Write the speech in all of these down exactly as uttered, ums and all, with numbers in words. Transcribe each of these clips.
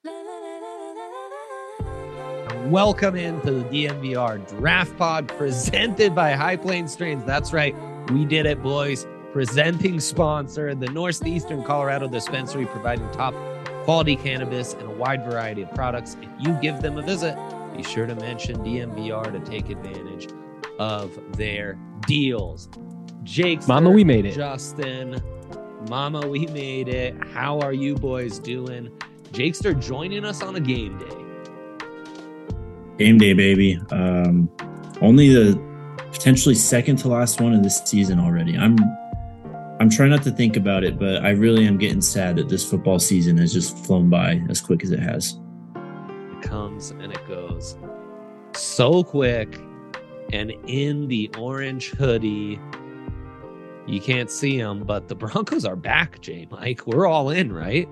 Welcome into the D N V R Draft Pod presented by High Plains Strains. That's right. We did it, boys. Presenting sponsor, the Northeastern Colorado Dispensary, providing top quality cannabis and a wide variety of products. If you give them a visit, be sure to mention D N V R to take advantage of their deals. Jake, Mama, we made it. Justin, Mama, we made it. How are you boys doing? Jakester joining us on a game day. Game day, baby. Um, only the potentially second to last one of this season already. I'm I'm trying not to think about it, but I really am getting sad that this football season has just flown by as quick as it has. It comes and it goes so quick. And in the orange hoodie, you can't see them, but the Broncos are back, J Mike. We're all in, right?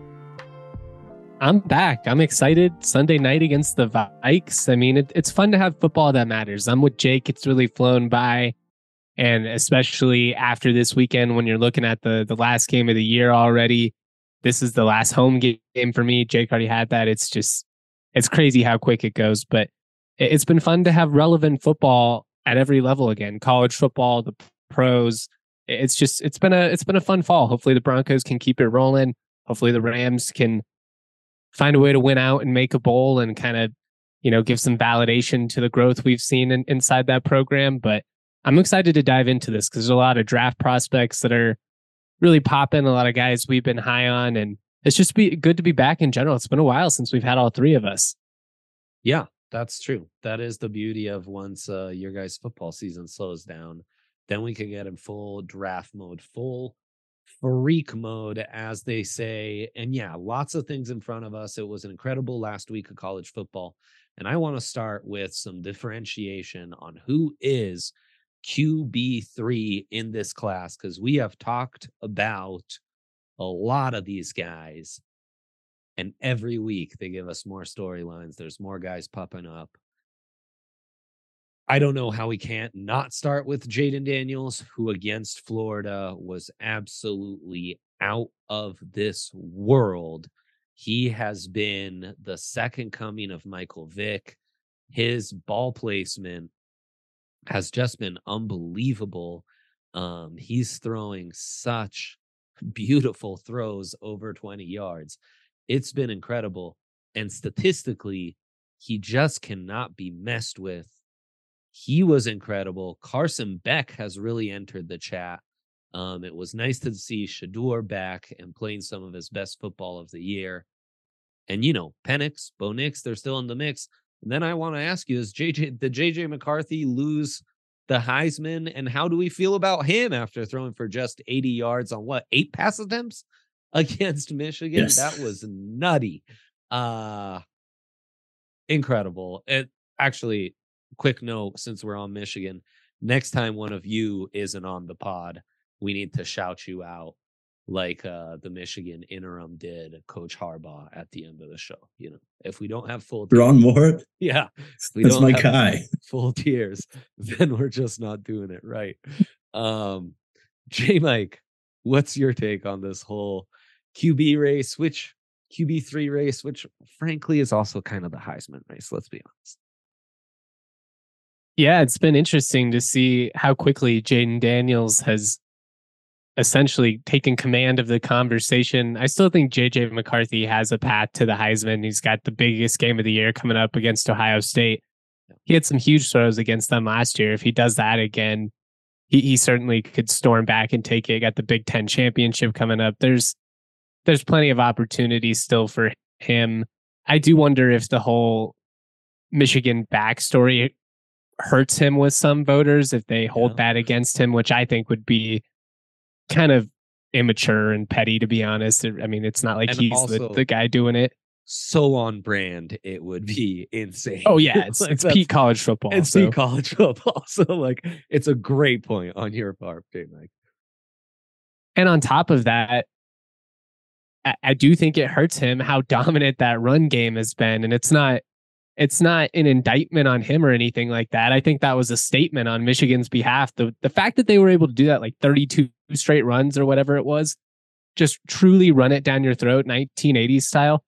I'm back. I'm excited. Sunday night against the Vikes. I mean, it, it's fun to have football that matters. I'm with Jake. It's really flown by. And especially after this weekend, when you're looking at the, the last game of the year already, this is the last home game for me. Jake already had that. It's just, it's crazy how quick it goes. But it, it's been fun to have relevant football at every level again. College football, the pros. It's just, it's been a, it's been a fun fall. Hopefully the Broncos can keep it rolling. Hopefully the Rams can find a way to win out and make a bowl and kind of, you know, give some validation to the growth we've seen in, inside that program. But I'm excited to dive into this because there's a lot of draft prospects that are really popping, a lot of guys we've been high on, and it's just be good to be back in general. It's been a while since we've had all three of us. Yeah, that's true. That is the beauty of once uh, your guys' football season slows down, then we can get in full draft mode, full freak mode, as they say. And yeah, lots of things in front of us. It was an incredible last week of college football. And I want to start with some differentiation on who is Q B three in this class, because we have talked about a lot of these guys. And every week they give us more storylines. There's more guys popping up. I don't know how we can't not start with Jayden Daniels, who against Florida was absolutely out of this world. He has been the second coming of Michael Vick. His ball placement has just been unbelievable. Um, he's throwing such beautiful throws over twenty yards. It's been incredible. And statistically, he just cannot be messed with. He was incredible. Carson Beck has really entered the chat. Um, it was nice to see Shedeur back and playing some of his best football of the year. And, you know, Penix, Bo Nix, they're still in the mix. And then I want to ask you, is J J, did J J McCarthy lose the Heisman? And how do we feel about him after throwing for just eighty yards on what, eight pass attempts against Michigan? Yes. That was nutty. Uh, incredible. It actually... Quick note, since we're on Michigan, next time one of you isn't on the pod, we need to shout you out like uh, the Michigan interim did Coach Harbaugh at the end of the show. You know, if we don't have full tiers, Ron Moore, yeah, we that's don't my have guy. Full tiers, then we're just not doing it right. Um, J Mike, what's your take on this whole Q B race, which Q B three race, which frankly is also kind of the Heisman race? Let's be honest. Yeah, it's been interesting to see how quickly Jayden Daniels has essentially taken command of the conversation. I still think J J McCarthy has a path to the Heisman. He's got the biggest game of the year coming up against Ohio State. He had some huge throws against them last year. If he does that again, he, he certainly could storm back and take it. Got the Big Ten championship coming up. There's there's plenty of opportunities still for him. I do wonder if the whole Michigan backstory hurts him with some voters if they hold yeah. that against him, which I think would be kind of immature and petty, to be honest. I mean, it's not like and he's the, the guy doing it. So on brand, it would be insane. Oh yeah, it's, like it's peak college football. It's so. peak college football. So like, it's a great point on your part, J Mike. And on top of that, I, I do think it hurts him how dominant that run game has been, and it's not. It's not an indictment on him or anything like that. I think that was a statement on Michigan's behalf. The the fact that they were able to do that, like thirty-two straight runs or whatever it was, just truly run it down your throat, nineteen eighties style.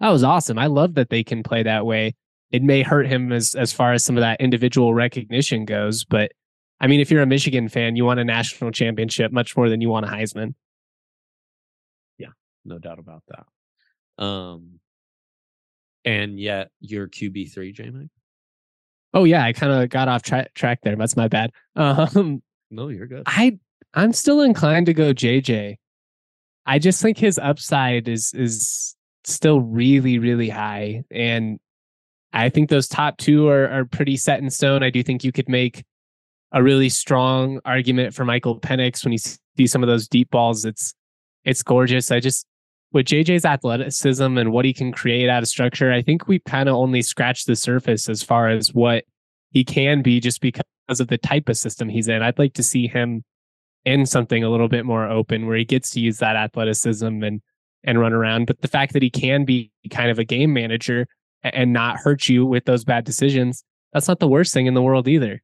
That was awesome. I love that they can play that way. It may hurt him as as far as some of that individual recognition goes, but I mean, if you're a Michigan fan, you want a national championship much more than you want a Heisman. Yeah, no doubt about that. Um, and yet you're Q B three, J-Mac? Oh yeah, I kind of got off tra- track there. That's my bad. Um, no, you're good. I I'm still inclined to go J J. I just think his upside is is still really, really high. And I think those top two are, are pretty set in stone. I do think you could make a really strong argument for Michael Penix when you see some of those deep balls. It's it's gorgeous. I just, with J J's athleticism and what he can create out of structure, I think we kind of only scratched the surface as far as what he can be just because of the type of system he's in. I'd like to see him in something a little bit more open where he gets to use that athleticism and and run around. But the fact that he can be kind of a game manager and not hurt you with those bad decisions, that's not the worst thing in the world either.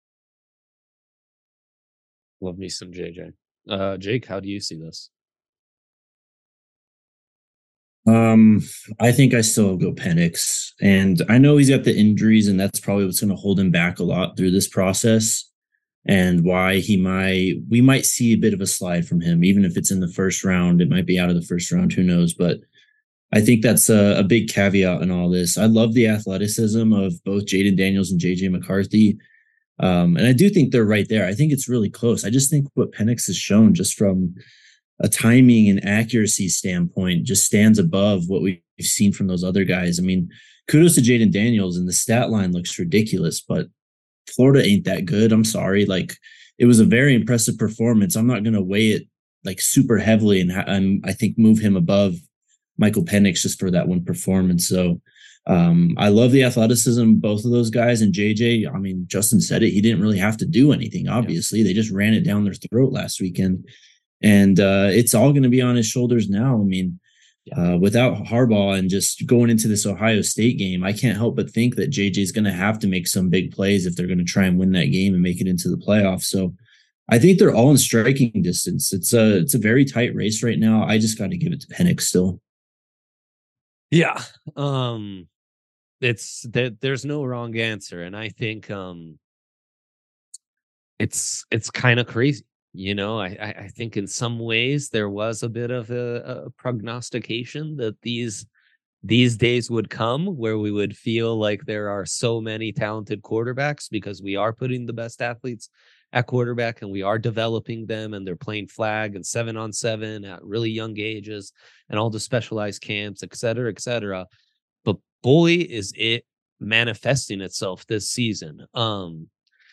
Love me some J J. Uh, Jake, how do you see this? Um, I think I still go Penix, and I know he's got the injuries, and that's probably what's going to hold him back a lot through this process, and why he might we might see a bit of a slide from him, even if it's in the first round. It might be out of the first round, who knows? But I think that's a, a big caveat in all this. I love the athleticism of both Jayden Daniels and J J McCarthy. Um, and I do think they're right there. I think it's really close. I just think what Penix has shown just from a timing and accuracy standpoint just stands above what we've seen from those other guys. I mean, kudos to Jayden Daniels, and the stat line looks ridiculous, but Florida ain't that good. I'm sorry. Like, it was a very impressive performance. I'm not going to weigh it like super heavily and, and I think move him above Michael Penix just for that one performance. So um, I love the athleticism, both of those guys. And J J, I mean, Justin said it. He didn't really have to do anything, obviously. Yeah. They just ran it down their throat last weekend. And uh, it's all going to be on his shoulders now. I mean, uh, without Harbaugh and just going into this Ohio State game, I can't help but think that J J is going to have to make some big plays if they're going to try and win that game and make it into the playoffs. So I think they're all in striking distance. It's a, it's a very tight race right now. I just got to give it to Penix still. Yeah. Um, it's there, there's no wrong answer. And I think um, it's, it's kind of crazy. You know, I, I think in some ways there was a bit of a, a prognostication that these these days would come where we would feel like there are so many talented quarterbacks because we are putting the best athletes at quarterback and we are developing them and they're playing flag and seven on seven at really young ages and all the specialized camps, et cetera, et cetera. But boy, is it manifesting itself this season. Um,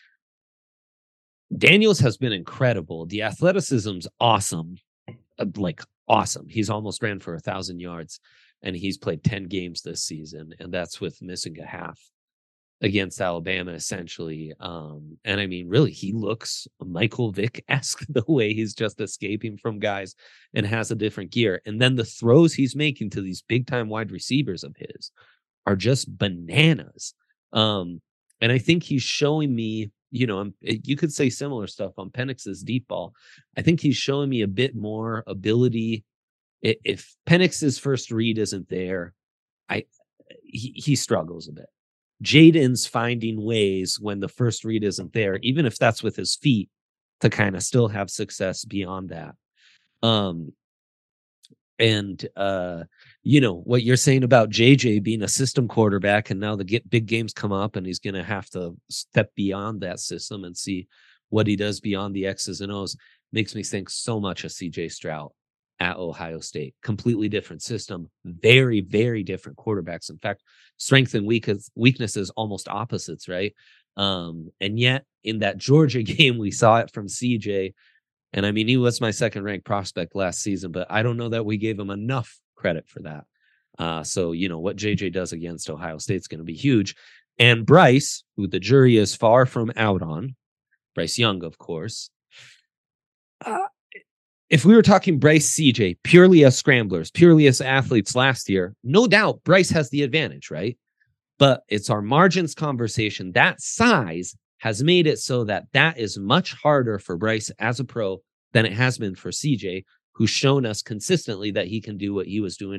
Daniels has been incredible. The athleticism's awesome, uh, like awesome. He's almost ran for a thousand yards, and he's played ten games this season, and that's with missing a half against Alabama, essentially. Um, and I mean, really, he looks Michael Vick-esque the way he's just escaping from guys and has a different gear. And then the throws he's making to these big-time wide receivers of his are just bananas. Um, and I think he's showing me. You know, you could say similar stuff on Penix's deep ball. I think he's showing me a bit more ability. If Penix's first read isn't there, I he, he struggles a bit. Jayden's finding ways when the first read isn't there, even if that's with his feet, to kind of still have success beyond that. Um, and uh, you know what you're saying about J J being a system quarterback, and now the get big games come up, and he's going to have to step beyond that system and see what he does beyond the X's and O's. Makes me think so much of C J Stroud at Ohio State. Completely different system, very, very different quarterbacks. In fact, strength and weakness, weaknesses almost opposites, right? Um, and yet in that Georgia game, we saw it from C J. And I mean, he was my second ranked prospect last season, but I don't know that we gave him enough credit for that. Uh, so, you know, what J J does against Ohio State is going to be huge. And Bryce, who the jury is far from out on, Bryce Young, of course. Uh, if we were talking Bryce C J, purely as scramblers, purely as athletes last year, no doubt Bryce has the advantage, right? But it's our margins conversation. That size has made it so that that is much harder for Bryce as a pro than it has been for C J, who's shown us consistently that he can do what he was doing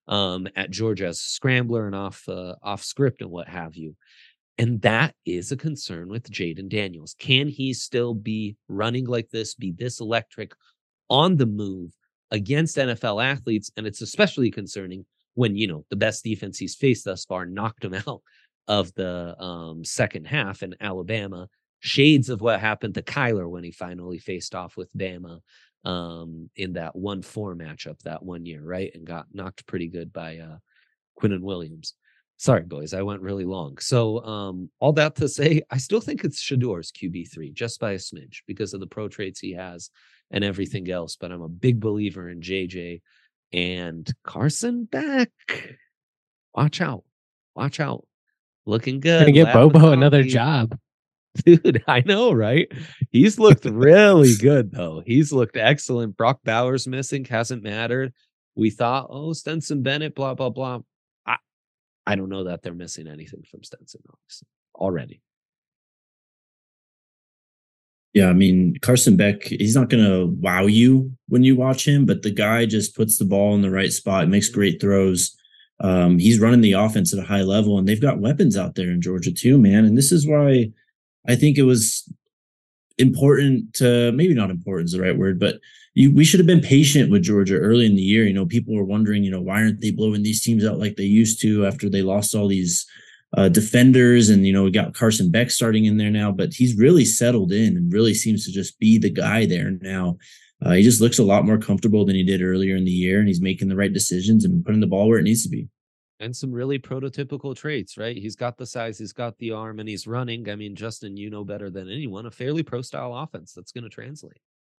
um, at Georgia as a scrambler and off uh, off script and what have you. And that is a concern with Jayden Daniels. Can he still be running like this, be this electric on the move against N F L athletes? And it's especially concerning when, you know, the best defense he's faced thus far knocked him out of the um, second half in Alabama. Shades of what happened to Kyler when he finally faced off with Bama um, in that one four matchup that one year, right? And got knocked pretty good by uh, Quinnen Williams. Sorry, boys, I went really long. So um, all that to say, I still think it's Shedor's Q B three, just by a smidge, because of the pro traits he has and everything else. But I'm a big believer in J J and Carson Beck. Watch out. Watch out. Looking good. Gonna get Bobo another job. Dude, I know, right? He's looked really good, though. He's looked excellent. Brock Bowers missing hasn't mattered. We thought, oh, Stenson Bennett, blah, blah, blah. I, I don't know that they're missing anything from Stenson, honestly, already. Yeah, I mean, Carson Beck, he's not going to wow you when you watch him, but the guy just puts the ball in the right spot, makes great throws. Um, he's running the offense at a high level, and they've got weapons out there in Georgia too, man. And this is why I think it was important to, maybe not important is the right word, but you, we should have been patient with Georgia early in the year. You know, people were wondering, you know, why aren't they blowing these teams out like they used to after they lost all these uh, defenders? And, you know, we got Carson Beck starting in there now, but he's really settled in and really seems to just be the guy there now. Uh, he just looks a lot more comfortable than he did earlier in the year, and he's making the right decisions and putting the ball where it needs to be. And some really prototypical traits, right? He's got the size, he's got the arm, and he's running. I mean, Justin, you know better than anyone, a fairly pro-style offense that's going to translate.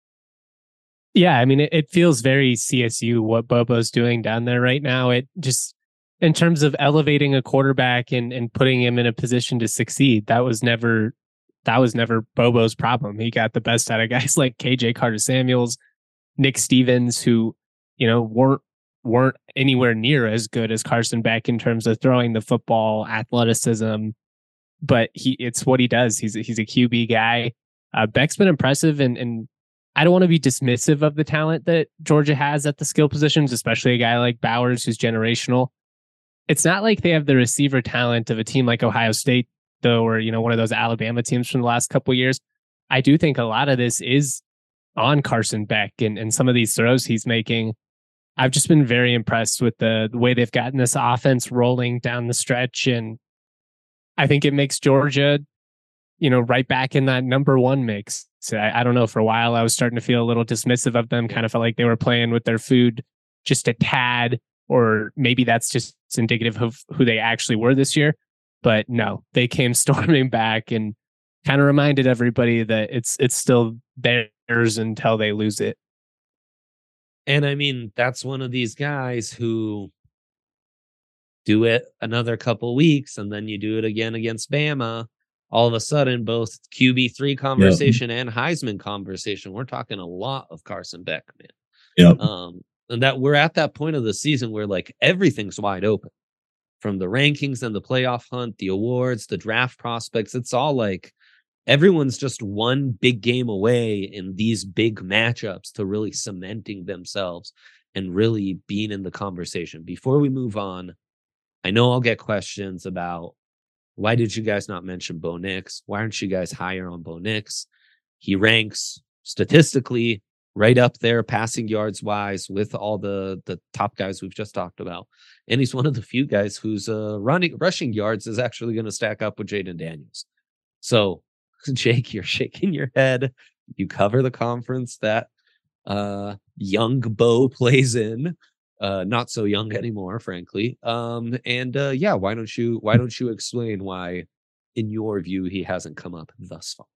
Yeah, I mean, it, it feels very C S U what Bobo's doing down there right now. It just, in terms of elevating a quarterback and, and putting him in a position to succeed, that was never that was never Bobo's problem. He got the best out of guys like K J Carter-Samuels, Nick Stevens, who, you know, weren't weren't anywhere near as good as Carson Beck in terms of throwing the football, athleticism, but he it's what he does. He's a, he's a Q B guy. Uh, Beck's been impressive, and and I don't want to be dismissive of the talent that Georgia has at the skill positions, especially a guy like Bowers who's generational. It's not like they have the receiver talent of a team like Ohio State, though, or, you know, one of those Alabama teams from the last couple of years. I do think a lot of this is on Carson Beck and, and some of these throws he's making. I've just been very impressed with the, the way they've gotten this offense rolling down the stretch. And I think it makes Georgia, you know, right back in that number one mix. So I, I don't know, for a while I was starting to feel a little dismissive of them, kind of felt like they were playing with their food just a tad, or maybe that's just indicative of who they actually were this year. But no, they came storming back and kind of reminded everybody that it's it's still theirs until they lose it. And I mean, that's one of these guys who do it another couple weeks and then you do it again against Bama. All of a sudden, both Q B three conversation yep. and Heisman conversation. We're talking a lot of Carson Beck, man. Yep. Um, and that we're at that point of the season where like everything's wide open, from the rankings and the playoff hunt, the awards, the draft prospects. It's all like everyone's just one big game away in these big matchups to really cementing themselves and really being in the conversation. Before we move on, I know I'll get questions about, why did you guys not mention Bo Nix? Why aren't you guys higher on Bo Nix? He ranks statistically right up there, passing yards wise, with all the, the top guys we've just talked about. And he's one of the few guys whose uh, running rushing yards is actually going to stack up with Jayden Daniels. So, Jake, you're shaking your head. You cover the conference that uh, young Bo plays in. Uh, not so young anymore, frankly. Um, and uh, yeah, why don't you why don't you explain why, in your view, he hasn't come up thus far?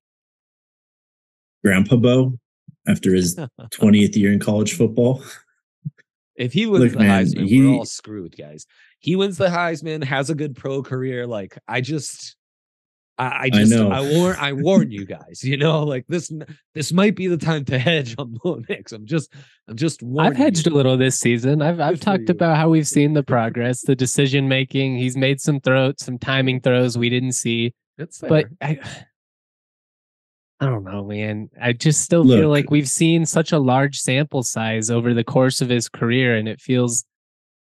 Grandpa Bo, after his twentieth year in college football. If he wins Look, the man, Heisman, he, we're all screwed, guys. He wins the Heisman, has a good pro career. Like, I just, I, I just, I, I warn, I warn you guys. You know, like this, this might be the time to hedge on Bo Nix. I'm just, I'm just. I've hedged you. a little this season. I've, I've talked about how we've seen the progress, the decision making. He's made some throws, some timing throws we didn't see. That's fair. But I, I don't know, man. I just still Look, feel like we've seen such a large sample size over the course of his career, and it feels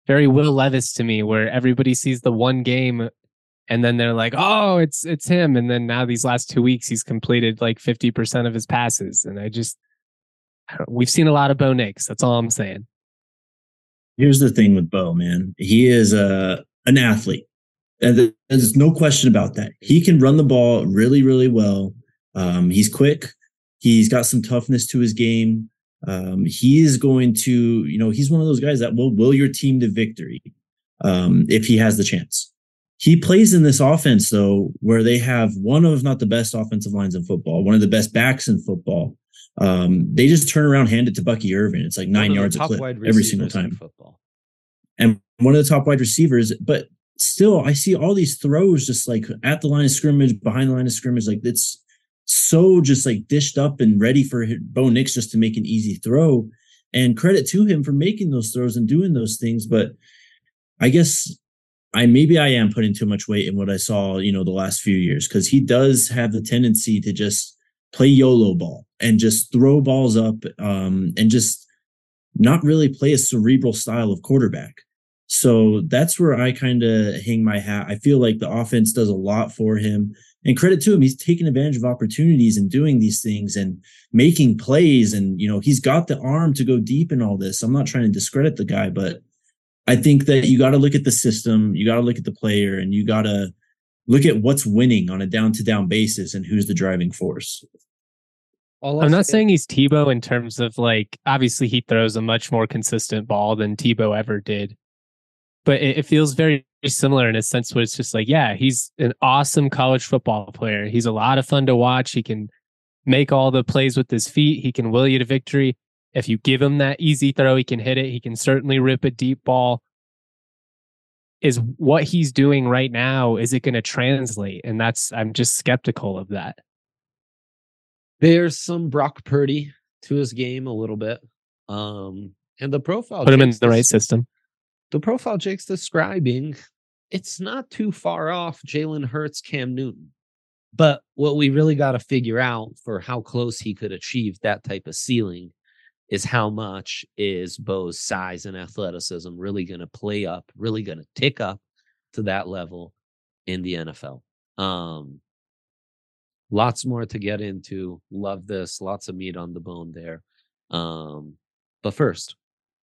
very Will Levis to me, where everybody sees the one game and then they're like, oh, it's it's him. And then now these last two weeks, he's completed like fifty percent of his passes. And I just, we've seen a lot of Bo Nix. That's all I'm saying. Here's the thing with Bo, man. He is a, an athlete. And there's no question about that. He can run the ball really, really well. Um, he's quick. He's got some toughness to his game. Um, he is going to, you know, he's one of those guys that will will your team to victory um, if he has the chance. He plays in this offense, though, where they have one of, if not the best offensive lines in football, one of the best backs in football. Um, they just turn around, hand it to Bucky Irvin. It's like nine yards a clip every single time. Football. And one of the top wide receivers, but still, I see all these throws just like at the line of scrimmage, behind the line of scrimmage. Like it's so just like dished up and ready for Bo Nix just to make an easy throw. And credit to him for making those throws and doing those things. But I guess I maybe I am putting too much weight in what I saw, you know, the last few years, because he does have the tendency to just play YOLO ball and just throw balls up um, and just not really play a cerebral style of quarterback. So that's where I kind of hang my hat. I feel like the offense does a lot for him, and credit to him. He's taking advantage of opportunities and doing these things and making plays. And, you know, he's got the arm to go deep in all this. I'm not trying to discredit the guy, but I think that you got to look at the system. You got to look at the player, and you got to look at what's winning on a down to down basis and who's the driving force. I'm not saying he's Tebow in terms of like, obviously he throws a much more consistent ball than Tebow ever did. But it, it feels very similar in a sense where it's just like, yeah, he's an awesome college football player. He's a lot of fun to watch. He can make all the plays with his feet. He can will you to victory. If you give him that easy throw, he can hit it. He can certainly rip a deep ball. Is what he's doing right now, is it going to translate? And that's, I'm just skeptical of that. There's some Brock Purdy to his game a little bit. Um, and the profile. Put him in the right system. The profile Jake's describing, it's not too far off Jalen Hurts, Cam Newton. But what we really got to figure out for how close he could achieve that type of ceiling is how much is Bo's size and athleticism really going to play up, really going to tick up to that level in the N F L. Um, lots more to get into. Love this. Lots of meat on the bone there. Um, but first,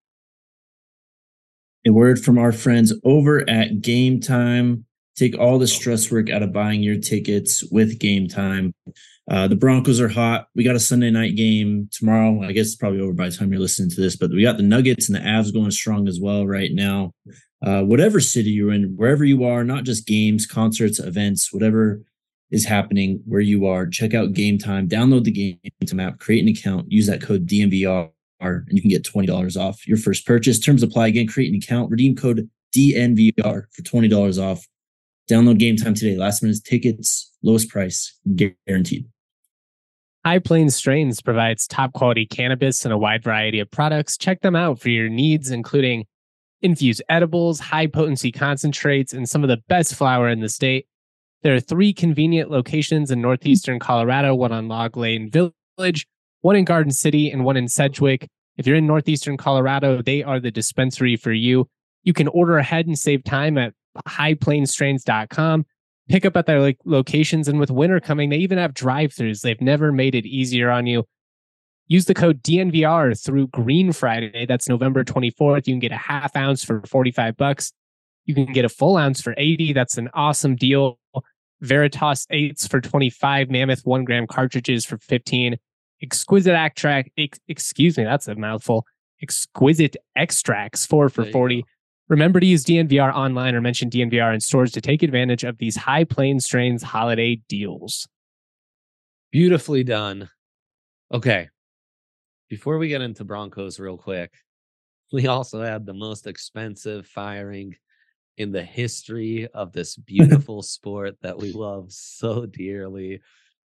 a word from our friends over at Game Time. Take all the stress work out of buying your tickets with Game Time. Uh, the Broncos are hot. We got a Sunday night game tomorrow. I guess it's probably over by the time you're listening to this, but we got the Nuggets and the Avs going strong as well right now. Uh, whatever city you're in, wherever you are, not just games, concerts, events, whatever is happening where you are, check out Game Time. Download the Game Time app, create an account, use that code D N V R, and you can get twenty dollars off your first purchase. Terms apply. Again, create an account, redeem code D N V R for twenty dollars off. Download Game Time today. Last minute tickets, lowest price, guaranteed. High Plains Strains provides top quality cannabis and a wide variety of products. Check them out for your needs, including infused edibles, high potency concentrates, and some of the best flower in the state. There are three convenient locations in northeastern Colorado, one on Log Lane Village, one in Garden City, and one in Sedgwick. If you're in northeastern Colorado, they are the dispensary for you. You can order ahead and save time at high plains strains dot com. Pick up at their like, locations, and with winter coming, they even have drive-thrus. They've never made it easier on you. Use the code D N V R through Green Friday. That's November twenty-fourth. You can get a half ounce for forty-five bucks. You can get a full ounce for eighty. That's an awesome deal. Veritas eights for twenty-five. Mammoth one gram cartridges for fifteen. Exquisite extract. Ex- excuse me, that's a mouthful. Exquisite extracts four for forty. Go. Remember to use D N V R online or mention D N V R in stores to take advantage of these High Plains Strains holiday deals. Beautifully done. Okay. Before we get into Broncos real quick, we also had the most expensive firing in the history of this beautiful sport that we love so dearly.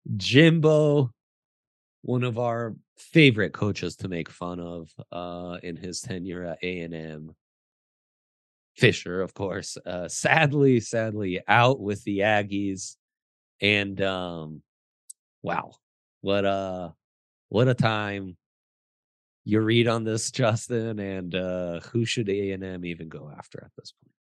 Jimbo, one of our favorite coaches to make fun of uh, in his tenure at A and M. Fisher, of course, uh, sadly, sadly out with the Aggies. And um, wow, what a, what a time. your read on this, Justin, and uh, who should A and M even go after at this point?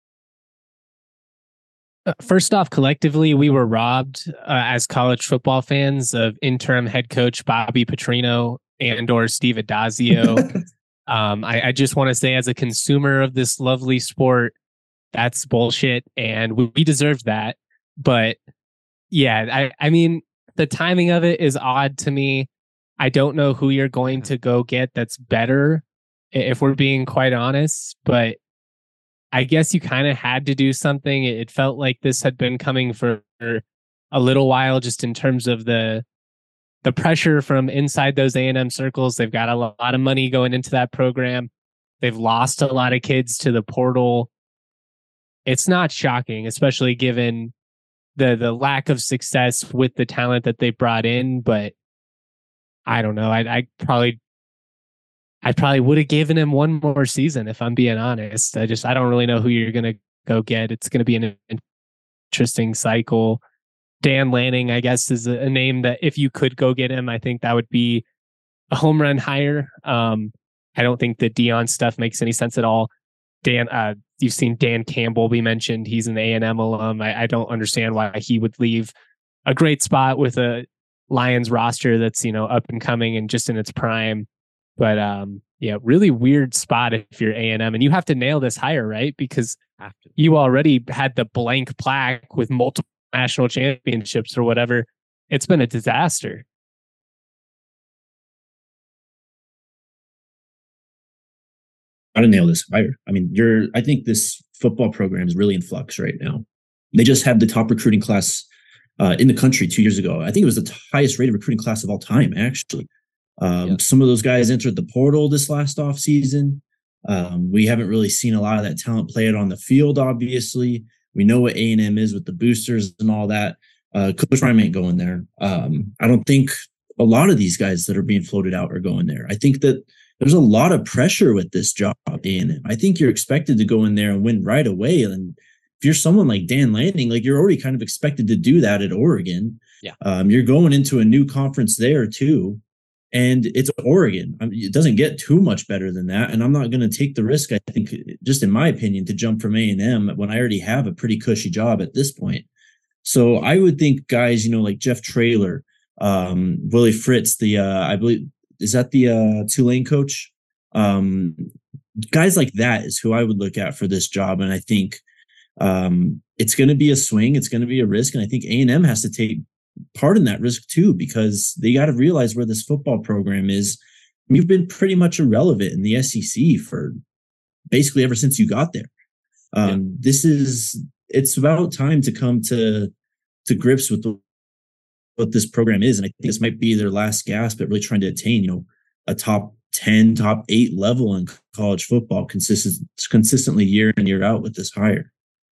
First off, collectively, we were robbed uh, as college football fans of interim head coach Bobby Petrino and or Steve Adazio. um, I, I just want to say, as a consumer of this lovely sport, that's bullshit, and we, we deserve that. But yeah, I, I mean, the timing of it is odd to me. I don't know who you're going to go get that's better, if we're being quite honest, but I guess you kind of had to do something. It felt like this had been coming for a little while, just in terms of the the pressure from inside those A and M circles. They've got a lot of money going into that program. They've lost a lot of kids to the portal. It's not shocking, especially given the the lack of success with the talent that they brought in. But I don't know. I I probably I probably would have given him one more season, if I'm being honest. I just, I don't really know who you're going to go get. It's going to be an interesting cycle. Dan Lanning, I guess, is a, a name that if you could go get him, I think that would be a home run hire. Um, I don't think the Dion stuff makes any sense at all. Dan, uh, you've seen Dan Campbell be mentioned. He's an A and M alum. I, I don't understand why he would leave a great spot with a Lions roster that's, you know, up and coming and just in its prime. But um, yeah, really weird spot if you're A and M, and you have to nail this hire, right? Because you already had the blank plaque with multiple national championships or whatever. It's been a disaster. Got to nail this hire. I mean, you're. I think this football program is really in flux right now. They just had the top recruiting class uh, in the country two years ago. I think it was the t- highest rated recruiting class of all time, actually. Um, yeah. Some of those guys entered the portal this last offseason. Um, we haven't really seen a lot of that talent play it on the field, obviously. We know what A and M is with the boosters and all that. Uh, Coach Prime ain't going there. Um, I don't think a lot of these guys that are being floated out are going there. I think that there's a lot of pressure with this job, A and M. I think you're expected to go in there and win right away. And if you're someone like Dan Lanning, like you're already kind of expected to do that at Oregon. Yeah. Um, you're going into a new conference there too. And it's Oregon. I mean, it doesn't get too much better than that. And I'm not going to take the risk, I think, just in my opinion, to jump from A and M when I already have a pretty cushy job at this point. So I would think guys, you know, like Jeff Traylor, um, Willie Fritz, the, uh, I believe, is that the uh, Tulane coach? Um, guys like that is who I would look at for this job. And I think um, it's going to be a swing. It's going to be a risk. And I think A and M has to take part in that risk too, because they got to realize where this football program is. You've been pretty much irrelevant in the S E C for basically ever since you got there. Um, yeah. This is, it's about time to come to, to grips with the, what this program is. And I think this might be their last gasp at really trying to attain, you know, a top ten, top eight level in college football consistent, consistently year in, year out with this hire.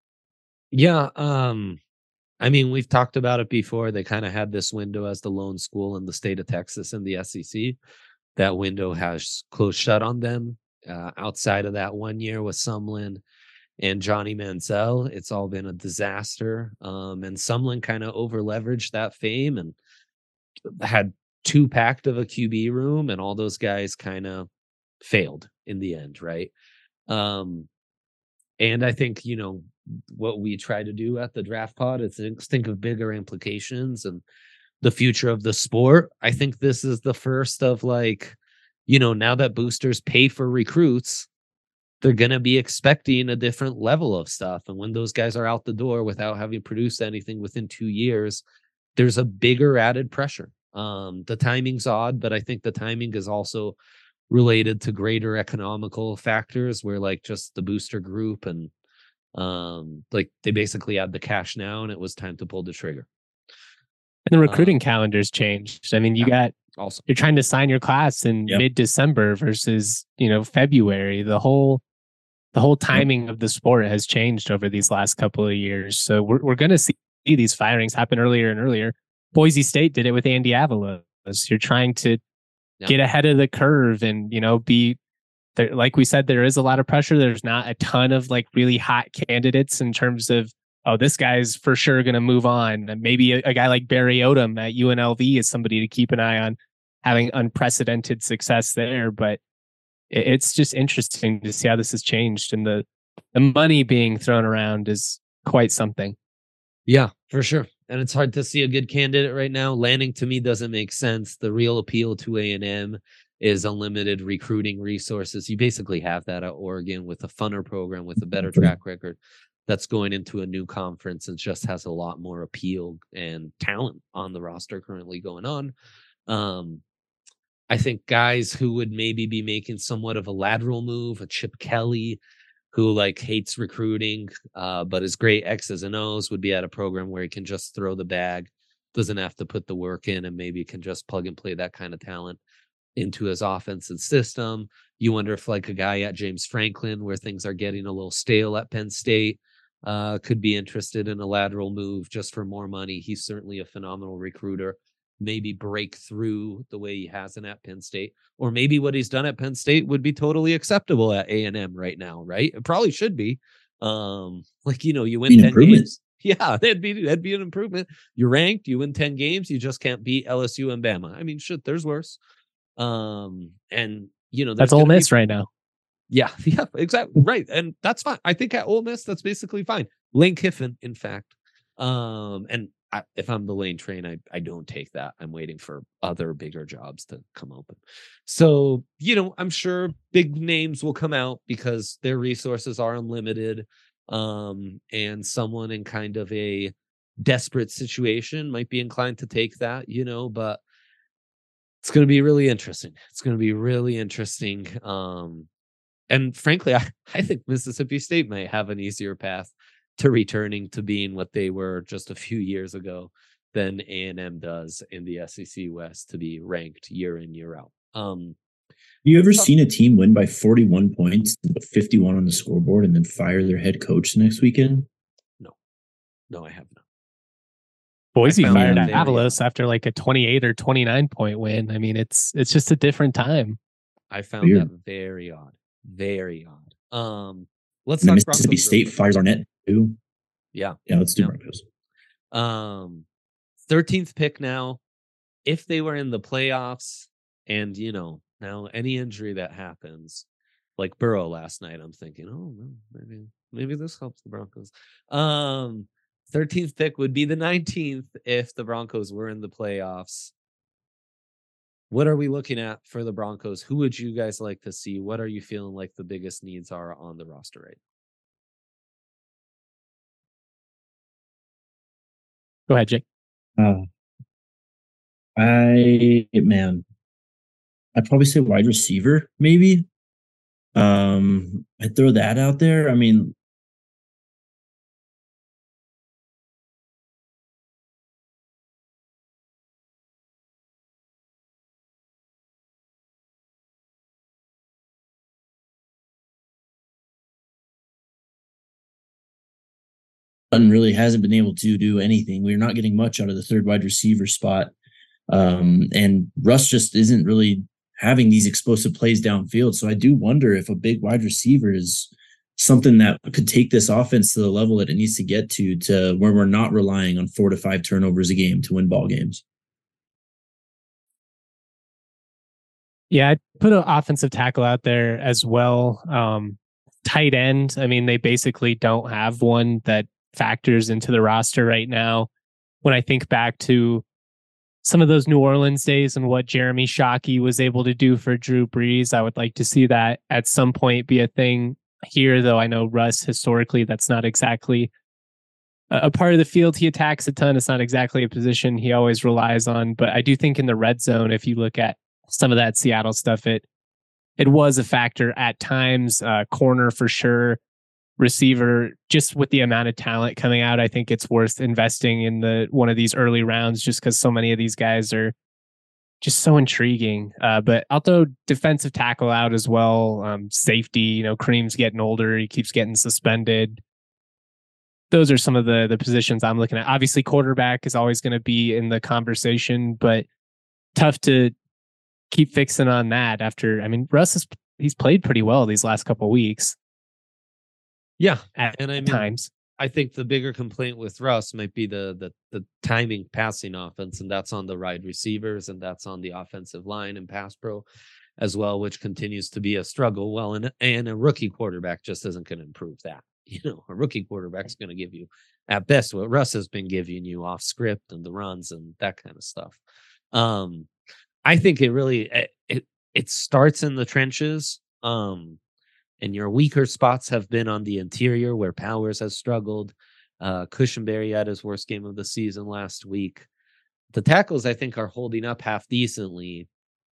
Yeah. Um, I mean, we've talked about it before. They kind of had this window as the lone school in the state of Texas in the S E C. That window has closed shut on them. Uh, outside of that one year with Sumlin and Johnny Manziel, it's all been a disaster. Um, and Sumlin kind of over leveraged that fame and had too packed of a Q B room, and all those guys kind of failed in the end, right? Um, and I think, you know, what we try to do at the Draft Pod is think of bigger implications and the future of the sport. I think this is the first of, like, you know, now that boosters pay for recruits, they're going to be expecting a different level of stuff. And when those guys are out the door without having produced anything within two years, there's a bigger added pressure. Um, the timing's odd, but I think the timing is also related to greater economical factors where, like, just the booster group and um like they basically had the cash now and it was time to pull the trigger. And the recruiting um, calendar's changed. I mean, you got also you're trying to sign your class in yep. mid-December versus, you know, February. The whole the whole timing yep. of the sport has changed over these last couple of years. So we're we're gonna see these firings happen earlier and earlier. Boise State did it with Andy Avalos. You're trying to yep. get ahead of the curve and, you know, be There, like we said, there is a lot of pressure. There's not a ton of like really hot candidates in terms of, oh, this guy's for sure going to move on. And maybe a, a guy like Barry Odom at U N L V is somebody to keep an eye on. having unprecedented success there. But it, it's just interesting to see how this has changed, and the the money being thrown around is quite something. Yeah, for sure. And it's hard to see a good candidate right now. Lanning to me doesn't make sense. The real appeal to A and M is unlimited recruiting resources. You basically have that at Oregon with a funner program with a better track record that's going into a new conference and just has a lot more appeal and talent on the roster currently going on. Um, I think guys who would maybe be making somewhat of a lateral move, a Chip Kelly, who like hates recruiting, uh, but is great X's and O's, would be at a program where he can just throw the bag, doesn't have to put the work in, and maybe can just plug and play that kind of talent into his offensive system. You wonder if like a guy at James Franklin, where things are getting a little stale at Penn State, uh, could be interested in a lateral move just for more money. He's certainly a phenomenal recruiter. Maybe break through the way he hasn't at Penn State, or maybe what he's done at Penn State would be totally acceptable at A and M right now, right? It probably should be. Um, like, you know, you win ten games. Yeah, that'd be that'd be an improvement. You're ranked, you win ten games, you just can't beat L S U and Bama. I mean, shit, there's worse. Um, and you know, that's Ole Miss be, right now. Yeah, yeah, exactly. Right. And that's fine. I think at Ole Miss, that's basically fine. Lane Kiffin, in fact. Um, and I, if I'm the Lane train, I, I don't take that. I'm waiting for other bigger jobs to come open. So, you know, I'm sure big names will come out because their resources are unlimited. Um, and someone in kind of a desperate situation might be inclined to take that, you know, but it's going to be really interesting. It's going to be really interesting. Um, and frankly, I, I think Mississippi State might have an easier path to returning to being what they were just a few years ago than A and M does in the S E C West to be ranked year in, year out. Um, you ever seen a team win by forty-one points, fifty-one on the scoreboard, and then fire their head coach the next weekend? No, no, I have not. Boise fired Avalos after like a twenty-eight or twenty-nine point win. I mean, it's it's just a different time. I found Weird. that very odd, very odd. Um, let's and talk Mississippi Broncos State fires Arnett too. Yeah, yeah. Let's do yeah. Broncos. Um, thirteenth pick now. If they were in the playoffs, and you know now any injury that happens, like Burrow last night, I'm thinking, oh, well, maybe maybe this helps the Broncos. Um. thirteenth pick would be the nineteenth if the Broncos were in the playoffs. What are we looking at for the Broncos? Who would you guys like to see? What are you feeling like the biggest needs are on the roster right now? Go ahead, Jake. Uh, I, man, I'd probably say wide receiver, maybe. Um, I'd throw that out there. I mean, really hasn't been able to do anything. We're not getting much out of the third wide receiver spot. Um, and Russ just isn't really having these explosive plays downfield. So I do wonder if a big wide receiver is something that could take this offense to the level that it needs to get to, to where we're not relying on four to five turnovers a game to win ball games. Yeah, I'd put an offensive tackle out there as well. Um, tight end. I mean, they basically don't have one that factors into the roster right now. When I think back to some of those New Orleans days and what Jeremy Shockey was able to do for Drew Brees, I would like to see that at some point be a thing here, though I know Russ, historically, that's not exactly a part of the field he attacks a ton. It's not exactly a position he always relies on. But I do think in the red zone, if you look at some of that Seattle stuff, it it was a factor at times. Uh, corner for sure. Receiver, just with the amount of talent coming out, I think it's worth investing in the one of these early rounds just because so many of these guys are just so intriguing. Uh, but I'll throw defensive tackle out as well. Um, safety, you know, Kareem's getting older. He keeps getting suspended. Those are some of the the positions I'm looking at. Obviously, quarterback is always going to be in the conversation, but tough to keep fixing on that after, I mean, Russ is, he's played pretty well these last couple of weeks. Yeah. At and I mean, times. I think the bigger complaint with Russ might be the the the timing passing offense, and that's on the wide receivers, and that's on the offensive line and pass pro as well, which continues to be a struggle. Well, and and a rookie quarterback just isn't going to improve that. You know, a rookie quarterback's going to give you at best what Russ has been giving you off script and the runs and that kind of stuff. Um, I think it really it it, it starts in the trenches. Um, and your weaker spots have been on the interior where Powers has struggled. Uh, Cushenberry had his worst game of the season last week. The tackles, I think, are holding up half decently,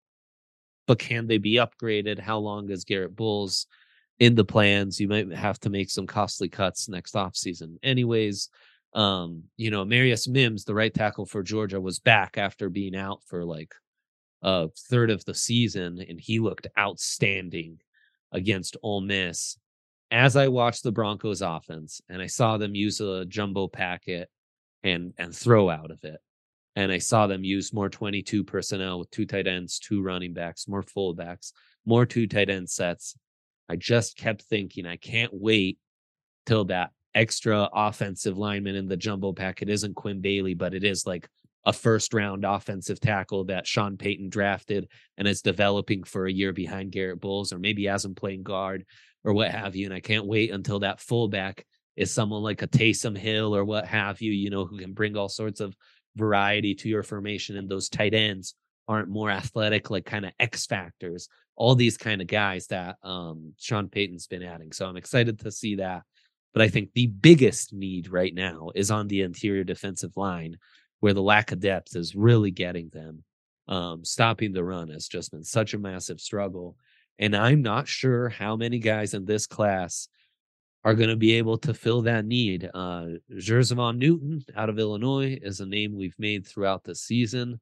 but can they be upgraded? How long is Garrett Bowles in the plans? You might have to make some costly cuts next offseason. Anyways, um, you know, Marius Mims, the right tackle for Georgia, was back after being out for like a third of the season, and he looked outstanding against Ole Miss. As I watched the Broncos offense and I saw them use a jumbo packet and and throw out of it, and I saw them use more twenty-two personnel with two tight ends, two running backs, more fullbacks, more two tight end sets, I just kept thinking, I can't wait till that extra offensive lineman in the jumbo packet isn't Quinn Bailey, but it is like a first round offensive tackle that Sean Payton drafted and is developing for a year behind Garrett Bowles, or maybe hasn't played guard or what have you. And I can't wait until that fullback is someone like a Taysom Hill or what have you, you know, who can bring all sorts of variety to your formation. And those tight ends aren't more athletic, like kind of X factors, all these kind of guys that um, Sean Payton's been adding. So I'm excited to see that. But I think the biggest need right now is on the interior defensive line, where the lack of depth is really getting them. Um, stopping the run has just been such a massive struggle. And I'm not sure how many guys in this class are going to be able to fill that need. Uh, Jerzavon Newton out of Illinois is a name we've made throughout the season.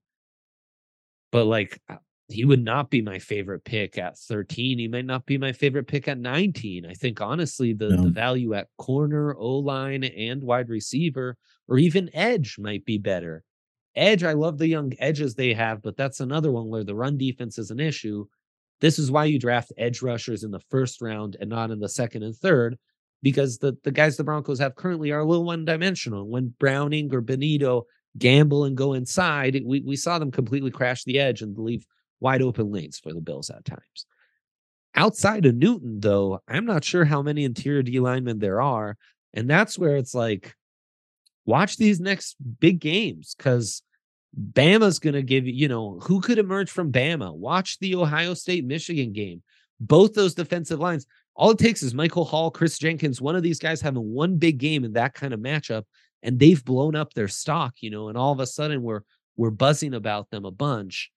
But like, he would not be my favorite pick at thirteen. He might not be my favorite pick at nineteen. I think, honestly, the, no. the value at corner, O-line, and wide receiver, or even edge might be better. Edge, I love the young edges they have, but that's another one where the run defense is an issue. This is why you draft edge rushers in the first round and not in the second and third, because the, the guys the Broncos have currently are a little one-dimensional. When Browning or Benito gamble and go inside, we, we saw them completely crash the edge and leave wide open lanes for the Bills at times. Outside of Newton, though, I'm not sure how many interior D linemen there are. And that's where it's like, watch these next big games, because Bama's going to give you, you know, who could emerge from Bama? Watch the Ohio State Michigan game. Both those defensive lines, all it takes is Michael Hall, Chris Jenkins, one of these guys having one big game in that kind of matchup, and they've blown up their stock, you know, and all of a sudden we're we're buzzing about them a bunch.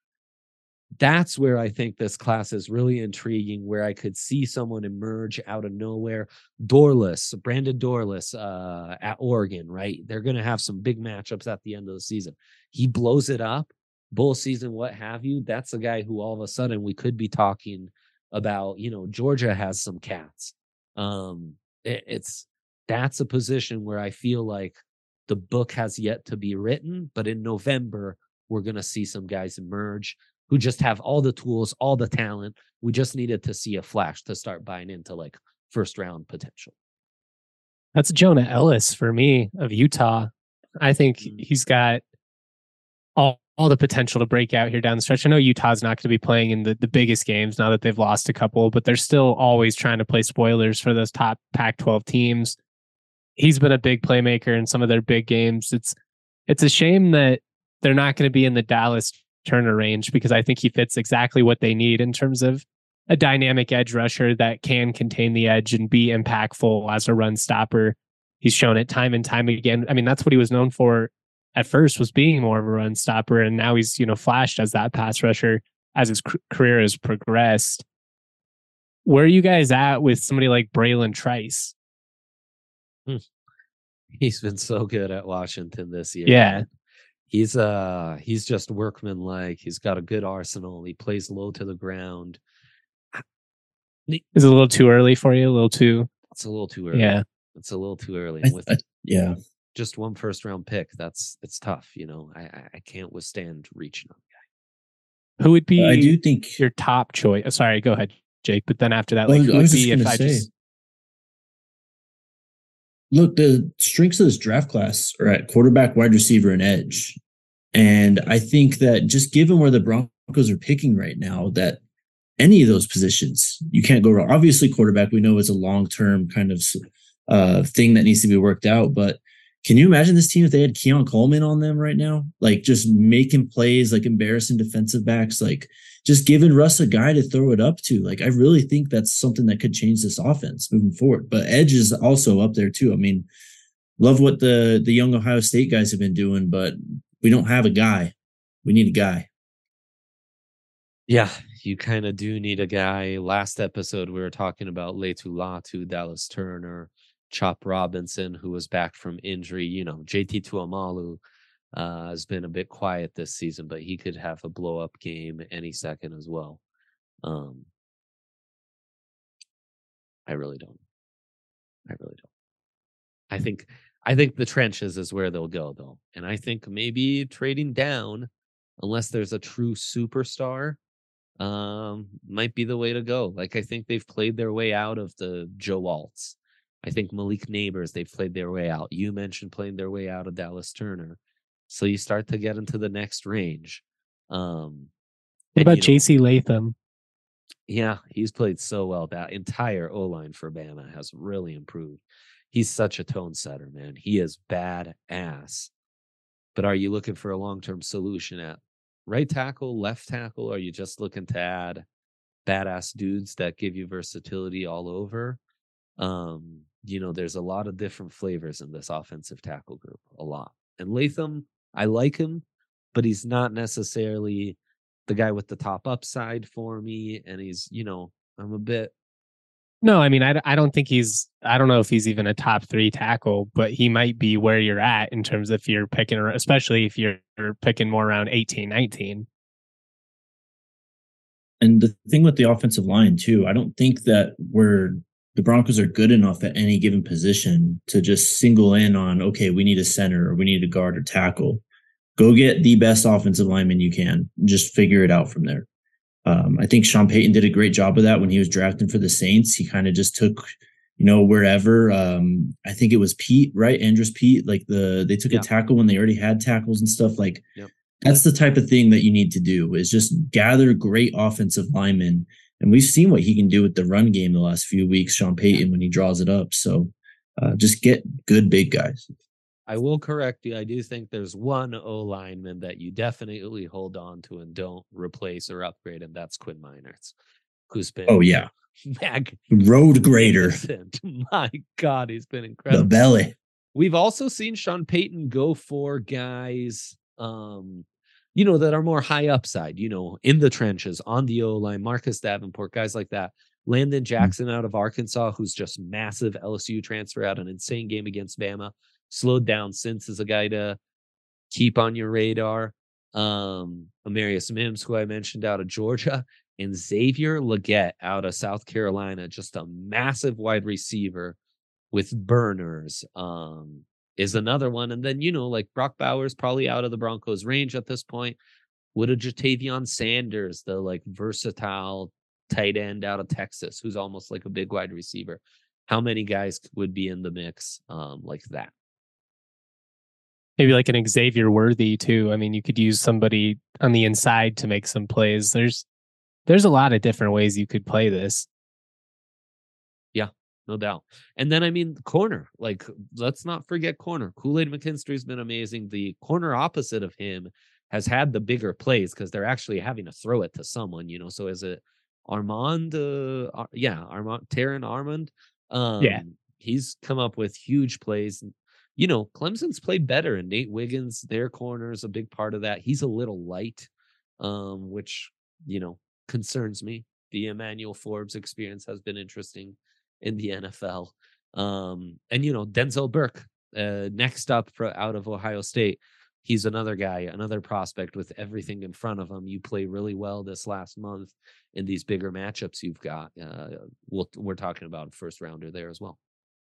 That's where I think this class is really intriguing, where I could see someone emerge out of nowhere. Dorless, Brandon Dorless uh, at Oregon, right? They're going to have some big matchups at the end of the season. He blows it up, bowl season, what have you. That's a guy who all of a sudden we could be talking about, you know, Georgia has some cats. Um, it, it's, that's a position where I feel like the book has yet to be written, but in November, we're going to see some guys emerge who just have all the tools, all the talent. We just needed to see a flash to start buying into like first round potential. That's Jonah Ellis for me of Utah. I think mm-hmm. he's got all, all the potential to break out here down the stretch. I know Utah's not going to be playing in the, the biggest games now that they've lost a couple, but they're still always trying to play spoilers for those top Pac twelve teams. He's been a big playmaker in some of their big games. It's it's a shame that they're not going to be in the Dallas Turner range, because I think he fits exactly what they need in terms of a dynamic edge rusher that can contain the edge and be impactful as a run stopper. He's shown it time and time again. I mean, that's what he was known for at first, was being more of a run stopper. And now he's, you know, flashed as that pass rusher as his c- career has progressed. Where are you guys at with somebody like Braylon Trice? Hmm. He's been so good at Washington this year. Yeah. He's uh he's just workmanlike. He's got a good arsenal. He plays low to the ground. Is it a little too early for you? A little too? It's a little too early. Yeah, it's a little too early. And with I, I, yeah, just one first round pick, that's it's tough. You know, I I can't withstand reaching on the guy. Who would be? I do think your top choice. Oh, sorry, go ahead, Jake. But then after that, well, like, who I would was be just if I say, just? look, the strengths of this draft class are at quarterback, wide receiver, and edge. And I think that just given where the Broncos are picking right now, that any of those positions, you can't go wrong. Obviously, quarterback, we know is a long-term kind of uh, thing that needs to be worked out. But can you imagine this team if they had Keon Coleman on them right now? Like just making plays, like embarrassing defensive backs, like just giving Russ a guy to throw it up to. Like I really think that's something that could change this offense moving forward. But edge is also up there too. I mean, love what the the young Ohio State guys have been doing, but we don't have a guy. We need a guy. Yeah, you kind of do need a guy. Last episode, we were talking about Letu Latu, Dallas Turner, Chop Robinson, who was back from injury. You know, J T Tuamalu uh, has been a bit quiet this season, but he could have a blow up game any second as well. Um, I really don't. I really don't. I think I think the trenches is where they'll go, though. And I think maybe trading down, unless there's a true superstar, um, might be the way to go. Like, I think they've played their way out of the Joe Waltz. I think Malik Neighbors, they've played their way out. You mentioned playing their way out of Dallas Turner. So you start to get into the next range. Um, What and, about you know, J C Latham? yeah, he's played so well. That entire O-line for Bama has really improved. He's such a tone setter, man. He is badass. But are you looking for a long-term solution at right tackle, left tackle? Or are you just looking to add badass dudes that give you versatility all over? Um, you know, there's a lot of different flavors in this offensive tackle group, a lot. And Latham, I like him, but he's not necessarily the guy with the top upside for me. And he's, you know, I'm a bit. No, I mean, I, I don't think he's, I don't know if he's even a top three tackle, but he might be where you're at in terms of if you're picking, especially if you're picking more around eighteen, nineteen. And the thing with the offensive line, too, I don't think that we're the Broncos are good enough at any given position to just single in on, okay, we need a center or we need a guard or tackle. Go get the best offensive lineman you can. Just figure it out from there. Um, I think Sean Payton did a great job of that when he was drafting for the Saints. He kind of just took, you know, wherever. Um, I think it was Pete, right? Andrus Pete. Like the they took Yeah. a tackle when they already had tackles and stuff. Like Yep. That's the type of thing that you need to do is just gather great offensive linemen. And we've seen what he can do with the run game the last few weeks, Sean Payton, when he draws it up. So uh, just get good big guys. I will correct you. I do think there's one O lineman that you definitely hold on to and don't replace or upgrade, and that's Quinn Miners, who's been Oh, yeah. mag Road grader. My God, he's been The incredible. belly. We've also seen Sean Payton go for guys, um, you know, that are more high upside, you know, in the trenches, on the O-line, Marcus Davenport, guys like that. Landon Jackson out of Arkansas, who's just massive L S U transfer, out an insane game against Bama. Slowed down since is a guy to keep on your radar. Um, Amarius Mims, who I mentioned out of Georgia, and Xavier Legette out of South Carolina, just a massive wide receiver with burners, um, is another one. And then, you know, like Brock Bowers, probably out of the Broncos range at this point. Would a Jatavion Sanders, the like versatile tight end out of Texas, who's almost like a big wide receiver. How many guys would be in the mix um, like that? Maybe like an Xavier Worthy too. I mean, you could use somebody on the inside to make some plays. There's there's a lot of different ways you could play this. Yeah, no doubt. And then, I mean, corner, like, let's not forget corner. Kool-Aid McKinstry's been amazing. The corner opposite of him has had the bigger plays because they're actually having to throw it to someone, you know. So is it Armand? Uh, Ar- yeah, Armand, Taron Armand. Um, Yeah. He's come up with huge plays. You know, Clemson's played better, and Nate Wiggins, their corner, is a big part of that. He's a little light, um, which, you know, concerns me. The Emmanuel Forbes experience has been interesting in the N F L. Um, and, you know, Denzel Burke, uh, next up for, out of Ohio State. He's another guy, another prospect with everything in front of him. You play really well this last month in these bigger matchups you've got. Uh, we'll, we're talking about first rounder there as well.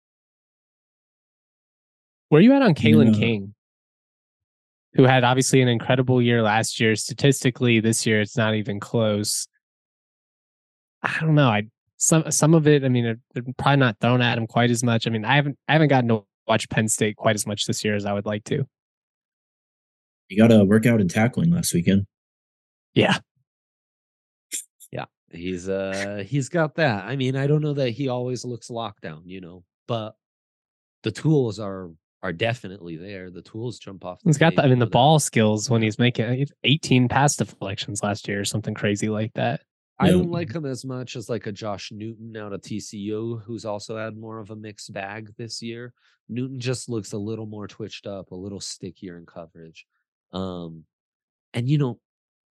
Where are you at on Kalen Yeah. King, who had obviously an incredible year last year? Statistically, this year it's not even close. I don't know. I some some of it, I mean, they're probably not thrown at him quite as much. I mean, I haven't I haven't gotten to watch Penn State quite as much this year as I would like to. You got to work out in tackling last weekend. Yeah. Yeah. He's uh he's got that. I mean, I don't know that he always looks locked down, you know, but the tools are are definitely there. The tools jump off. He's got the, I mean, the that. ball skills when he's making eighteen pass deflections last year or something crazy like that. I don't like him as much as like a Josh Newton out of T C U, who's also had more of a mixed bag this year. Newton just looks a little more twitched up, a little stickier in coverage. Um, and you know,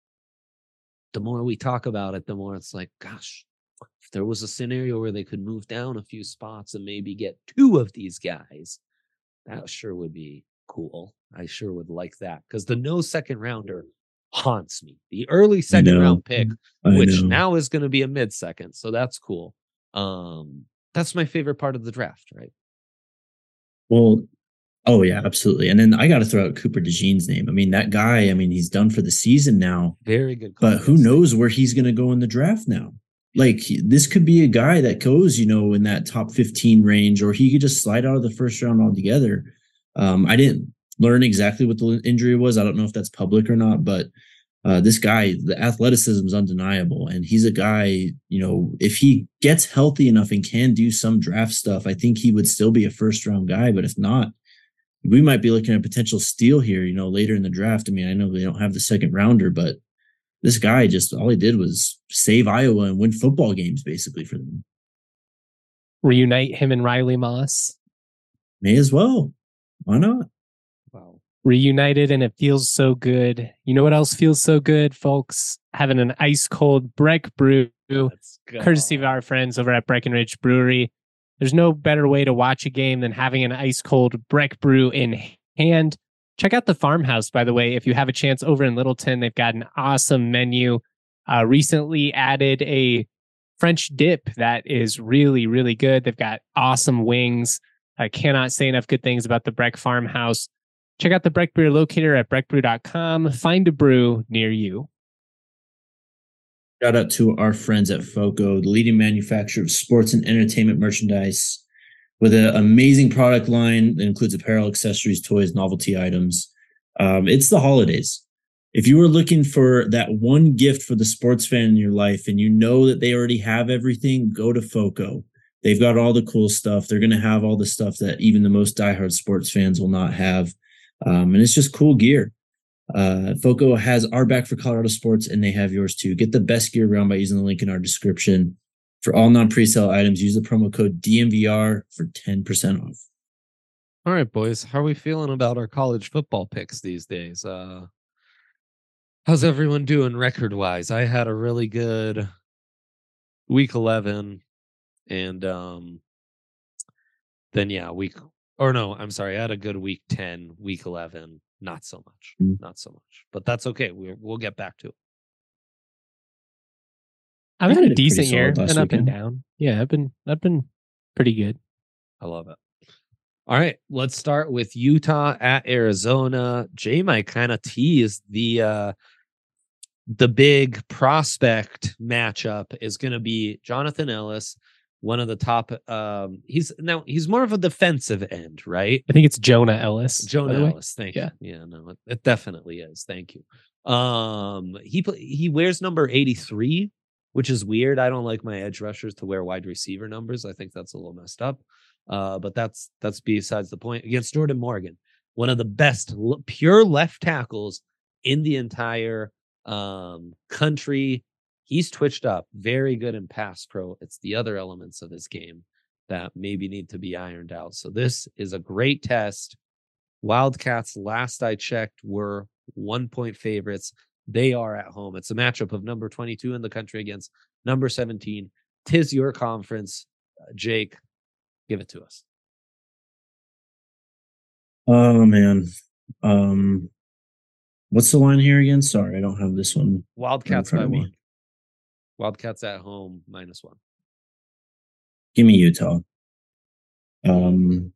the more we talk about it, the more it's like, gosh, if there was a scenario where they could move down a few spots and maybe get two of these guys, that sure would be cool. I sure would like that, because the no second rounder haunts me. The early second round pick, I which know. now is going to be a mid second, so that's cool. Um, that's my favorite part of the draft, right? Well, oh yeah, absolutely. And then I got to throw out Cooper DeJean's name. I mean, that guy, I mean, he's done for the season now. Very good. But who knows where he's going to go in the draft now? Like, this could be a guy that goes, you know, in that top fifteen range, or he could just slide out of the first round altogether. Um, I didn't learn exactly what the injury was. I don't know if that's public or not, but uh, this guy, the athleticism is undeniable. And he's a guy, you know, if he gets healthy enough and can do some draft stuff, I think he would still be a first round guy. But if not, we might be looking at a potential steal here, you know, later in the draft. I mean, I know they don't have the second rounder, but this guy just, all he did was save Iowa and win football games basically for them. Reunite him and Riley Moss. May as well. Why not? Wow. Reunited, and it feels so good. You know what else feels so good, folks? Having an ice cold Breck brew, courtesy of our friends over at Breckenridge Brewery. There's no better way to watch a game than having an ice cold Breck brew in hand. Check out the Farmhouse, by the way, if you have a chance over in Littleton. They've got an awesome menu. Uh, recently added a French dip that is really, really good. They've got awesome wings. I cannot say enough good things about the Breck Farmhouse. Check out the Breck Brew locator at breck brew dot com. Find a brew near you. Shout out to our friends at FOCO, the leading manufacturer of sports and entertainment merchandise, with an amazing product line that includes apparel, accessories, toys, novelty items. Um, it's the holidays. If you were looking for that one gift for the sports fan in your life and you know that they already have everything, go to FOCO. They've got all the cool stuff. They're going to have all the stuff that even the most diehard sports fans will not have. Um, and it's just cool gear. Uh, FOCO has our back for Colorado sports, and they have yours too. Get the best gear around by using the link in our description. For all non-presale items, use the promo code D M V R for ten percent off. All right, boys. How are we feeling about our college football picks these days? Uh, how's everyone doing record-wise? I had a really good week eleven, and um, then, yeah, week... Or no, I'm sorry. I had a good week ten, week eleven. Not so much. Mm-hmm. Not so much. But that's okay. We're, we'll get back to it. I've had a decent year, been up and down. Yeah, I've been I've been pretty good. I love it. All right, let's start with Utah at Arizona. Jay might kind of tease the uh, the big prospect matchup is going to be Jonathan Ellis, one of the top. Um, he's now he's more of a defensive end, right? I think it's Jonah Ellis. Jonah Ellis. Thank yeah. you. Yeah, no, it, it definitely is. Thank you. Um, he he wears number eighty-three. Which is weird. I don't like my edge rushers to wear wide receiver numbers. I think that's a little messed up. Uh, but that's that's besides the point. Against Jordan Morgan, one of the best l- pure left tackles in the entire um, country. He's twitched up. Very good in pass pro. It's the other elements of his game that maybe need to be ironed out. So this is a great test. Wildcats, last I checked, were one-point favorites. They are at home. It's a matchup of number twenty-two in the country against number seventeen. Tis your conference. Uh, Jake, give it to us. Oh, man. Um, what's the line here again? Sorry, I don't have this one. Wildcats by one. Wildcats at home, minus one. Give me Utah. Um,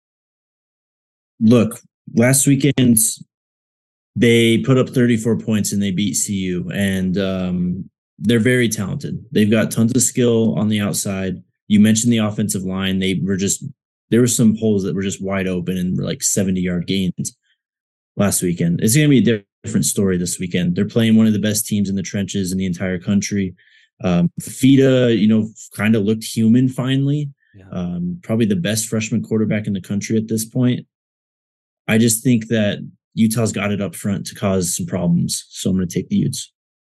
look, last weekend, they put up thirty-four points and they beat C U. And um, they're very talented. They've got tons of skill on the outside. You mentioned the offensive line. They were just there were some holes that were just wide open and were like seventy yard gains last weekend. It's going to be a different story this weekend. They're playing one of the best teams in the trenches in the entire country. Um, Fida, you know, kind of looked human finally. Yeah. Um, probably the best freshman quarterback in the country at this point. I just think that Utah's got it up front to cause some problems. So I'm going to take the Utes.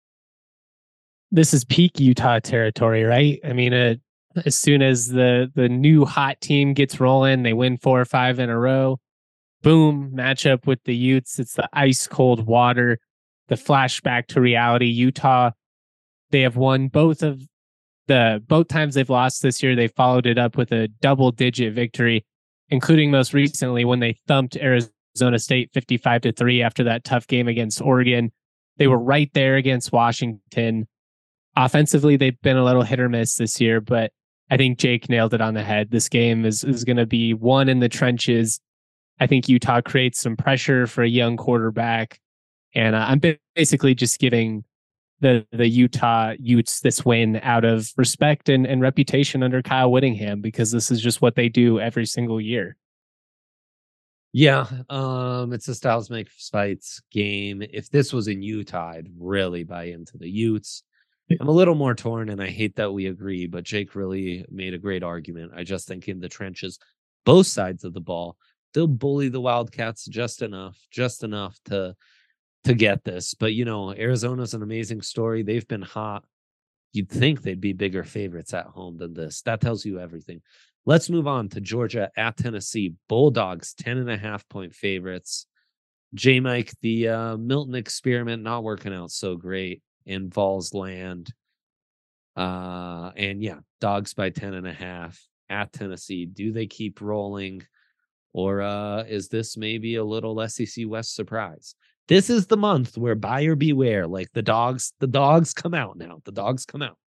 This is peak Utah territory, right? I mean, uh, as soon as the the new hot team gets rolling, they win four or five in a row. Boom, matchup with the Utes. It's the ice cold water, the flashback to reality. Utah, they have won both of the both times they've lost this year. They followed it up with a double digit victory, including most recently when they thumped Arizona State fifty-five to three after that tough game against Oregon. They were right there against Washington. Offensively, they've been a little hit or miss this year, but I think Jake nailed it on the head. This game is, is going to be won in the trenches. I think Utah creates some pressure for a young quarterback. And uh, I'm basically just giving the the Utah Utes this win out of respect and, and reputation under Kyle Whittingham, because this is just what they do every single year. Yeah, um, it's a styles make fights game. If this was in Utah, I'd really buy into the Utes. I'm a little more torn, and I hate that we agree, but Jake really made a great argument. I just think in the trenches, both sides of the ball, they'll bully the Wildcats just enough, just enough to to get this. But, you know, Arizona's an amazing story. They've been hot. You'd think they'd be bigger favorites at home than this. That tells you everything. Let's move on to Georgia at Tennessee. Bulldogs, ten and a half point favorites. J. Mike, the uh, Milton experiment not working out so great in Vols land. Uh, and yeah, dogs by ten and a half at Tennessee. Do they keep rolling? Or uh, is this maybe a little S E C West surprise? This is the month where buyer beware. Like the dogs, the dogs come out now. The dogs come out.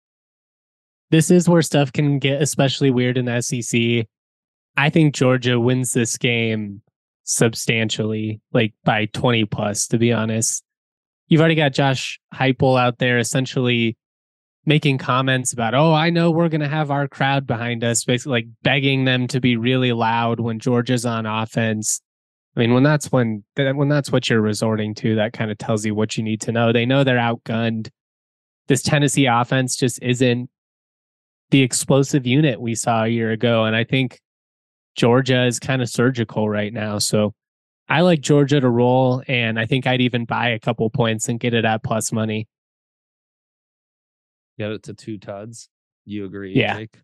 This is where stuff can get especially weird in the S E C. I think Georgia wins this game substantially, like by twenty plus, to be honest. You've already got Josh Heupel out there essentially making comments about, oh, I know we're going to have our crowd behind us, basically like begging them to be really loud when Georgia's on offense. I mean, when that's when when that's what you're resorting to, that kind of tells you what you need to know. They know they're outgunned. This Tennessee offense just isn't the explosive unit we saw a year ago. And I think Georgia is kind of surgical right now. So I like Georgia to roll, and I think I'd even buy a couple points and get it at plus money. Get it to two tuds. You agree, yeah. Jake?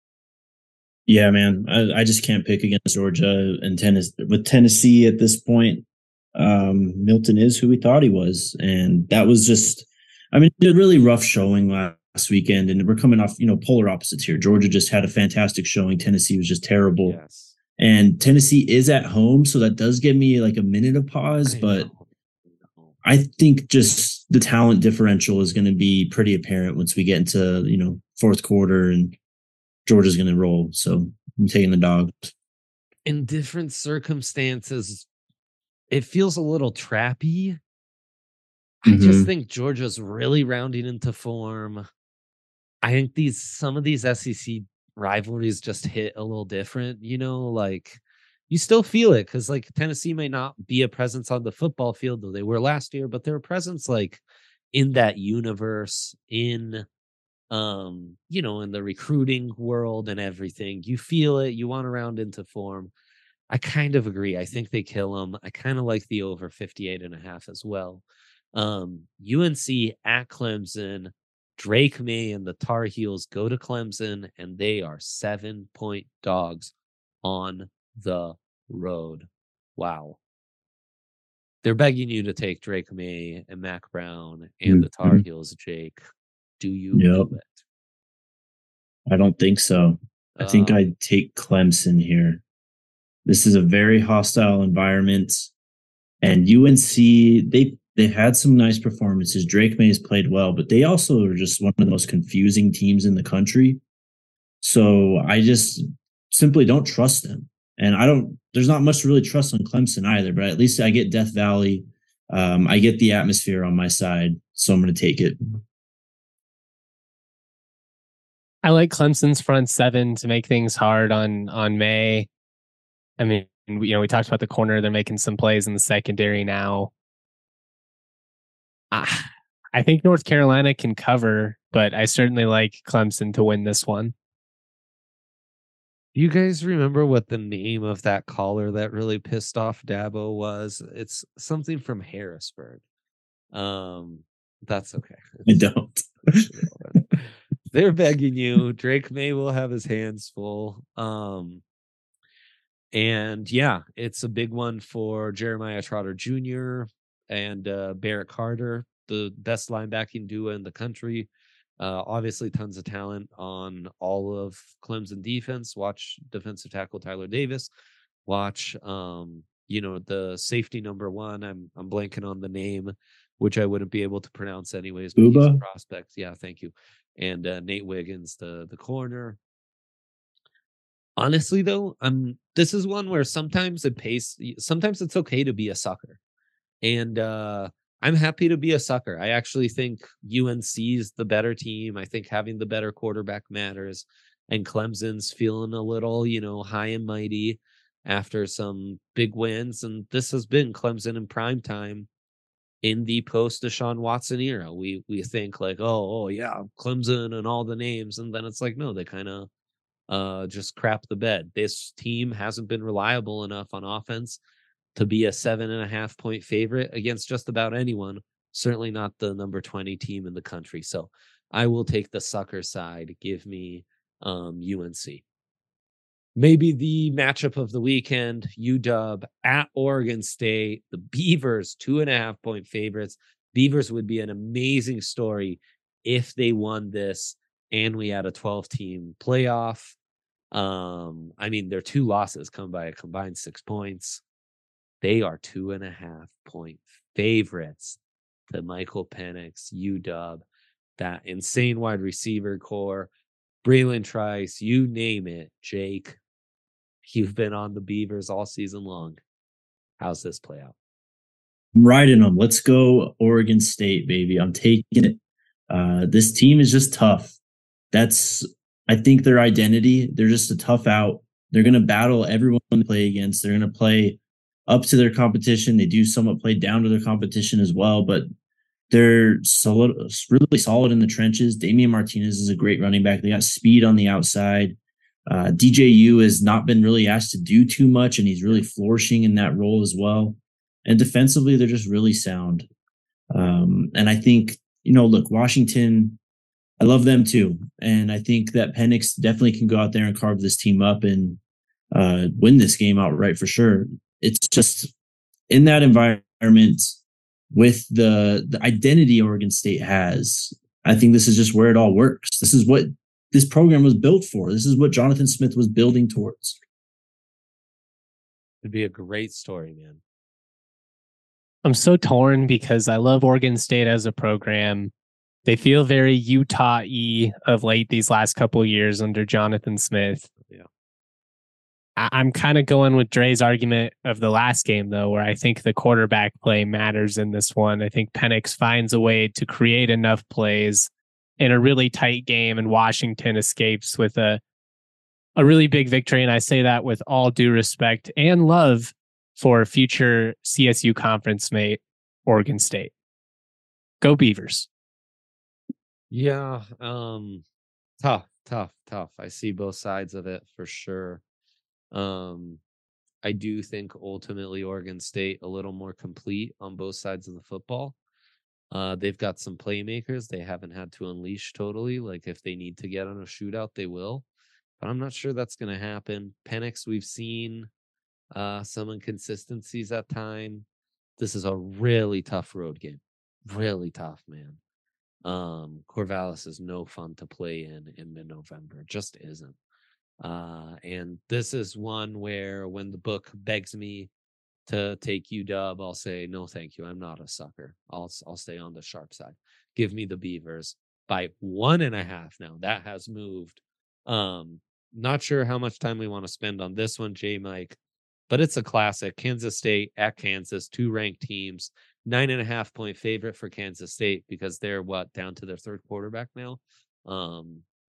Yeah, man. I, I just can't pick against Georgia and Tennessee. With Tennessee at this point, um, Milton is who we thought he was. And that was just, I mean, a really rough showing last weekend. And we're coming off, you know, polar opposites here. Georgia just had a fantastic showing. Tennessee was just terrible. Yes. And Tennessee is at home, so that does give me like a minute of pause. I but know. I think just the talent differential is going to be pretty apparent once we get into, you know, fourth quarter, and Georgia's going to roll. So I'm taking the dogs. In different circumstances, it feels a little trappy. Mm-hmm. I just think Georgia's really rounding into form. I think these some of these S E C rivalries just hit a little different, you know, like you still feel it because like Tennessee may not be a presence on the football field though they were last year, but they're a presence like in that universe, in um, you know, in the recruiting world and everything. You feel it, you want to round into form. I kind of agree. I think they kill them. I kind of like the over fifty-eight and a half as well. Um, U N C at Clemson. Drake May and the Tar Heels go to Clemson, and they are seven-point dogs on the road. Wow. They're begging you to take Drake May and Mac Brown and mm-hmm. the Tar Heels, Jake. Do you yep. do it? I don't think so. I um, think I'd take Clemson here. This is a very hostile environment, and U N C, they They've had some nice performances. Drake May has played well, but they also are just one of the most confusing teams in the country. So I just simply don't trust them. And I don't, there's not much to really trust on Clemson either, but at least I get Death Valley. Um, I get the atmosphere on my side. So I'm going to take it. I like Clemson's front seven to make things hard on on May. I mean, you know, we talked about the corner. They're making some plays in the secondary now. Ah, I think North Carolina can cover, but I certainly like Clemson to win this one. You guys remember what the name of that caller that really pissed off Dabo was? It's something from Harrisburg. Um, that's okay. I don't. They're begging you. Drake May will have his hands full. Um, and yeah, it's a big one for Jeremiah Trotter Junior and uh, Barrett Carter, the best linebacking duo in the country. Uh, obviously, tons of talent on all of Clemson defense. Watch defensive tackle Tyler Davis. Watch, um, you know, the safety number one. I'm I'm blanking on the name, which I wouldn't be able to pronounce anyways. But he's a Uba? prospect. Yeah, thank you. And uh, Nate Wiggins, the the corner. Honestly, though, um, this is one where sometimes it pays. Sometimes it's okay to be a sucker, and uh, I'm happy to be a sucker. I actually think U N C's the better team. I think having the better quarterback matters, and Clemson's feeling a little, you know, high and mighty after some big wins. And this has been Clemson in prime time in the post Deshaun Watson era. We we think like, oh, oh yeah, Clemson and all the names, and then it's like, no, they kind of uh just crap the bed. This team hasn't been reliable enough on offense to be a seven and a half point favorite against just about anyone, certainly not the number twenty team in the country. So I will take the sucker side. Give me um U N C. Maybe the matchup of the weekend, U W at Oregon State, the Beavers, two and a half point favorites. Beavers would be an amazing story if they won this and we had a twelve team playoff. Um, I mean, their two losses come by a combined six points. They are two and a half point favorites to Michael Penix, U W, that insane wide receiver core, Braylon Trice, you name it, Jake. You've been on the Beavers all season long. How's this play out? I'm riding them. Let's go Oregon State, baby. I'm taking it. Uh, this team is just tough. That's, I think, their identity. They're just a tough out. They're going to battle everyone they play against. They're going to play up to their competition. They do somewhat play down to their competition as well, but they're solid, really solid in the trenches. Damian Martinez is a great running back. They got speed on the outside. Uh, D J U has not been really asked to do too much, and he's really flourishing in that role as well. And defensively, they're just really sound. Um, and I think, you know, look, Washington, I love them too. And I think that Penix definitely can go out there and carve this team up and uh, win this game outright for sure. It's just in that environment with the, the identity Oregon State has, I think this is just where it all works. This is what this program was built for. This is what Jonathan Smith was building towards. It'd be a great story, man. I'm so torn because I love Oregon State as a program. They feel very Utah-y of late these last couple of years under Jonathan Smith. Yeah. I- I'm kind of going with Dre's argument of the last game, though, where I think the quarterback play matters in this one. I think Penix finds a way to create enough plays in a really tight game, and Washington escapes with a a really big victory. And I say that with all due respect and love for future C S U conference mate, Oregon State. Go Beavers. Yeah. Um, tough, tough, tough. I see both sides of it for sure. Um, I do think ultimately Oregon State a little more complete on both sides of the football. Uh, they've got some playmakers they haven't had to unleash totally. Like if they need to get on a shootout, they will. But I'm not sure that's going to happen. Penix, we've seen uh, some inconsistencies at time. This is a really tough road game. Really tough, man. Um, Corvallis is no fun to play in in mid-November. Just isn't. Uh, and this is one where when the book begs me to take U W, I'll say no, thank you. I'm not a sucker. I'll I'll stay on the sharp side. Give me the Beavers by one and a half. Now that has moved. Um, not sure how much time we want to spend on this one, J Mike, but it's a classic. Kansas State at Kansas, two ranked teams, nine and a half point favorite for Kansas State because they're what down to their third quarterback now. Um,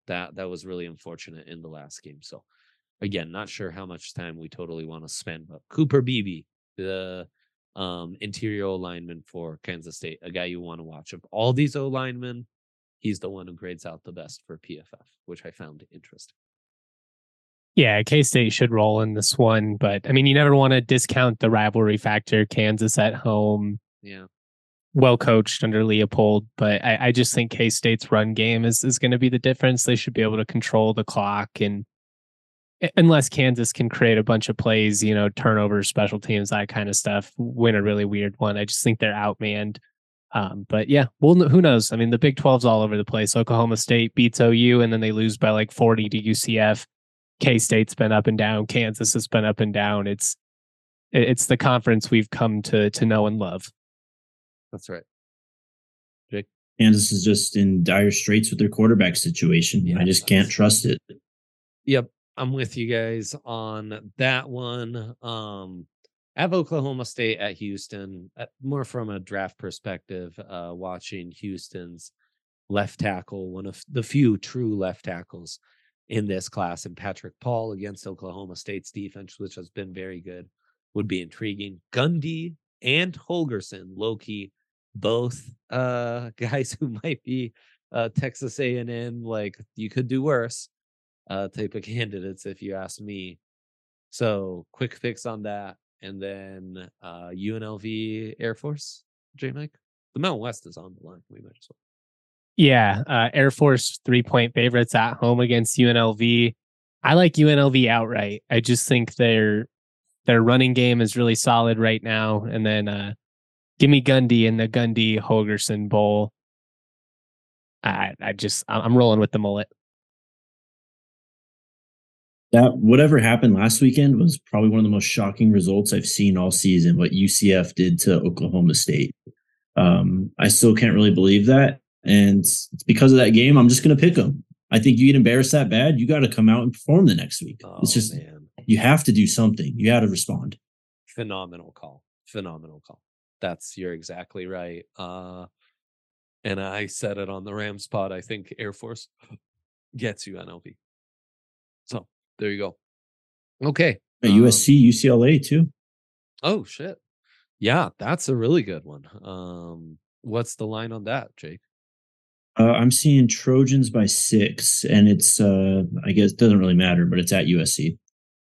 that that was really unfortunate in the last game. So again, not sure how much time we totally want to spend, but Cooper Beebe, the um, interior O lineman for Kansas State, a guy you want to watch. Of all these O linemen, he's the one who grades out the best for P F F, which I found interesting. Yeah, K-State should roll in this one, but I mean, you never want to discount the rivalry factor. Kansas at home. Yeah. Well coached under Leopold, but I, I just think K-State's run game is, is going to be the difference. They should be able to control the clock, and unless Kansas can create a bunch of plays, you know, turnovers, special teams, that kind of stuff, win a really weird one. I just think they're outmanned. Um, but yeah, well, who knows? I mean, the Big twelve's all over the place. Oklahoma State beats O U, and then they lose by like forty to U C F. K-State's been up and down. Kansas has been up and down. It's it's the conference we've come to to know and love. That's right. Jake? Kansas is just in dire straits with their quarterback situation. Yeah, I just can't trust it. Yep, I'm with you guys on that one. Um, I have Oklahoma State at Houston, uh, more from a draft perspective, uh, watching Houston's left tackle, one of the few true left tackles in this class, and Patrick Paul against Oklahoma State's defense, which has been very good, would be intriguing. Gundy and Holgorsen, low-key, both uh, guys who might be uh, Texas A and M, like, you could do worse uh, type of candidates, if you ask me. So, quick fix on that. And then uh, U N L V Air Force, J-Mike. The Mountain West is on the line. We might as well. Yeah, uh, Air Force three-point favorites at home against U N L V. I like U N L V outright. I just think their their running game is really solid right now. And then uh, give me Gundy in the Gundy Holgorsen Bowl. I I just I'm rolling with the mullet. That whatever happened last weekend was probably one of the most shocking results I've seen all season. What U C F did to Oklahoma State. Um, I still can't really believe that. And it's because of that game, I'm just going to pick them. I think you get embarrassed that bad, you got to come out and perform the next week. Oh, it's just, man. You have to do something. You got to respond. Phenomenal call. Phenomenal call. That's, you're exactly right. Uh, and I said it on the Rams pod. I think Air Force gets U N L V. So there you go. Okay. At um, U S C, U C L A too. Oh, shit. Yeah, that's a really good one. Um, what's the line on that, Jake? Uh, I'm seeing Trojans by six, and it's, uh, I guess, it doesn't really matter, but it's at U S C.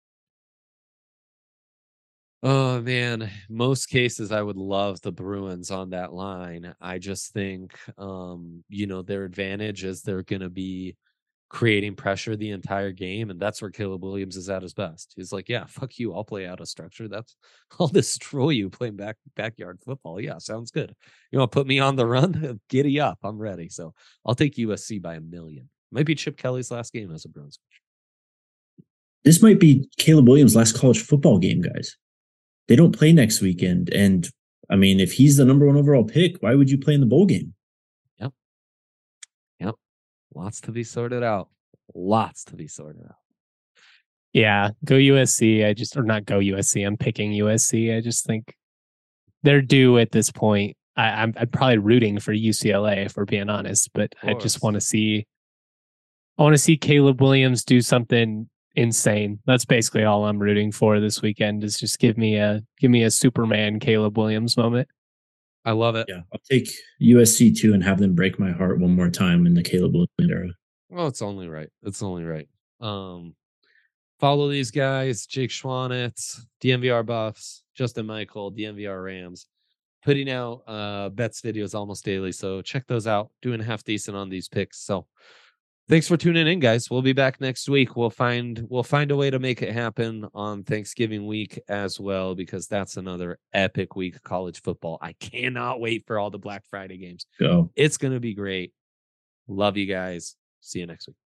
Oh, man. Most cases, I would love the Bruins on that line. I just think, um, you know, their advantage is they're going to be creating pressure the entire game, and that's where Caleb Williams is at his best. He's like, yeah, fuck you. I'll play out of structure. That's I'll destroy you playing back backyard football. Yeah, sounds good. You want to put me on the run? Giddy up. I'm ready. So I'll take U S C by a million. Might be Chip Kelly's last game as a Bruins coach. This might be Caleb Williams' last college football game, guys. They don't play next weekend. And I mean, if he's the number one overall pick, why would you play in the bowl game? Yep. Yep. Lots to be sorted out. Lots to be sorted out. Yeah, go U S C. I just, or not go U S C. I'm picking U S C. I just think they're due at this point. I, I'm, I'm probably rooting for U C L A if we're being honest, but I just want to see, I want to see Caleb Williams do something insane. That's basically all I'm rooting for this weekend. Is just give me a, give me a Superman Caleb Williams moment. I love it. Yeah, I'll take U S C too and have them break my heart one more time in the Caleb Williams era. Well, it's only right. It's only right. Um, follow these guys: Jake Schwanitz, D N V R Buffs, Justin Michael, D N V R Rams, putting out uh, bets videos almost daily. So check those out. Doing half decent on these picks. So thanks for tuning in, guys. We'll be back next week. We'll find we'll find a way to make it happen on Thanksgiving week as well, because that's another epic week of college football. I cannot wait for all the Black Friday games. Go. It's gonna be great. Love you guys. See you next week.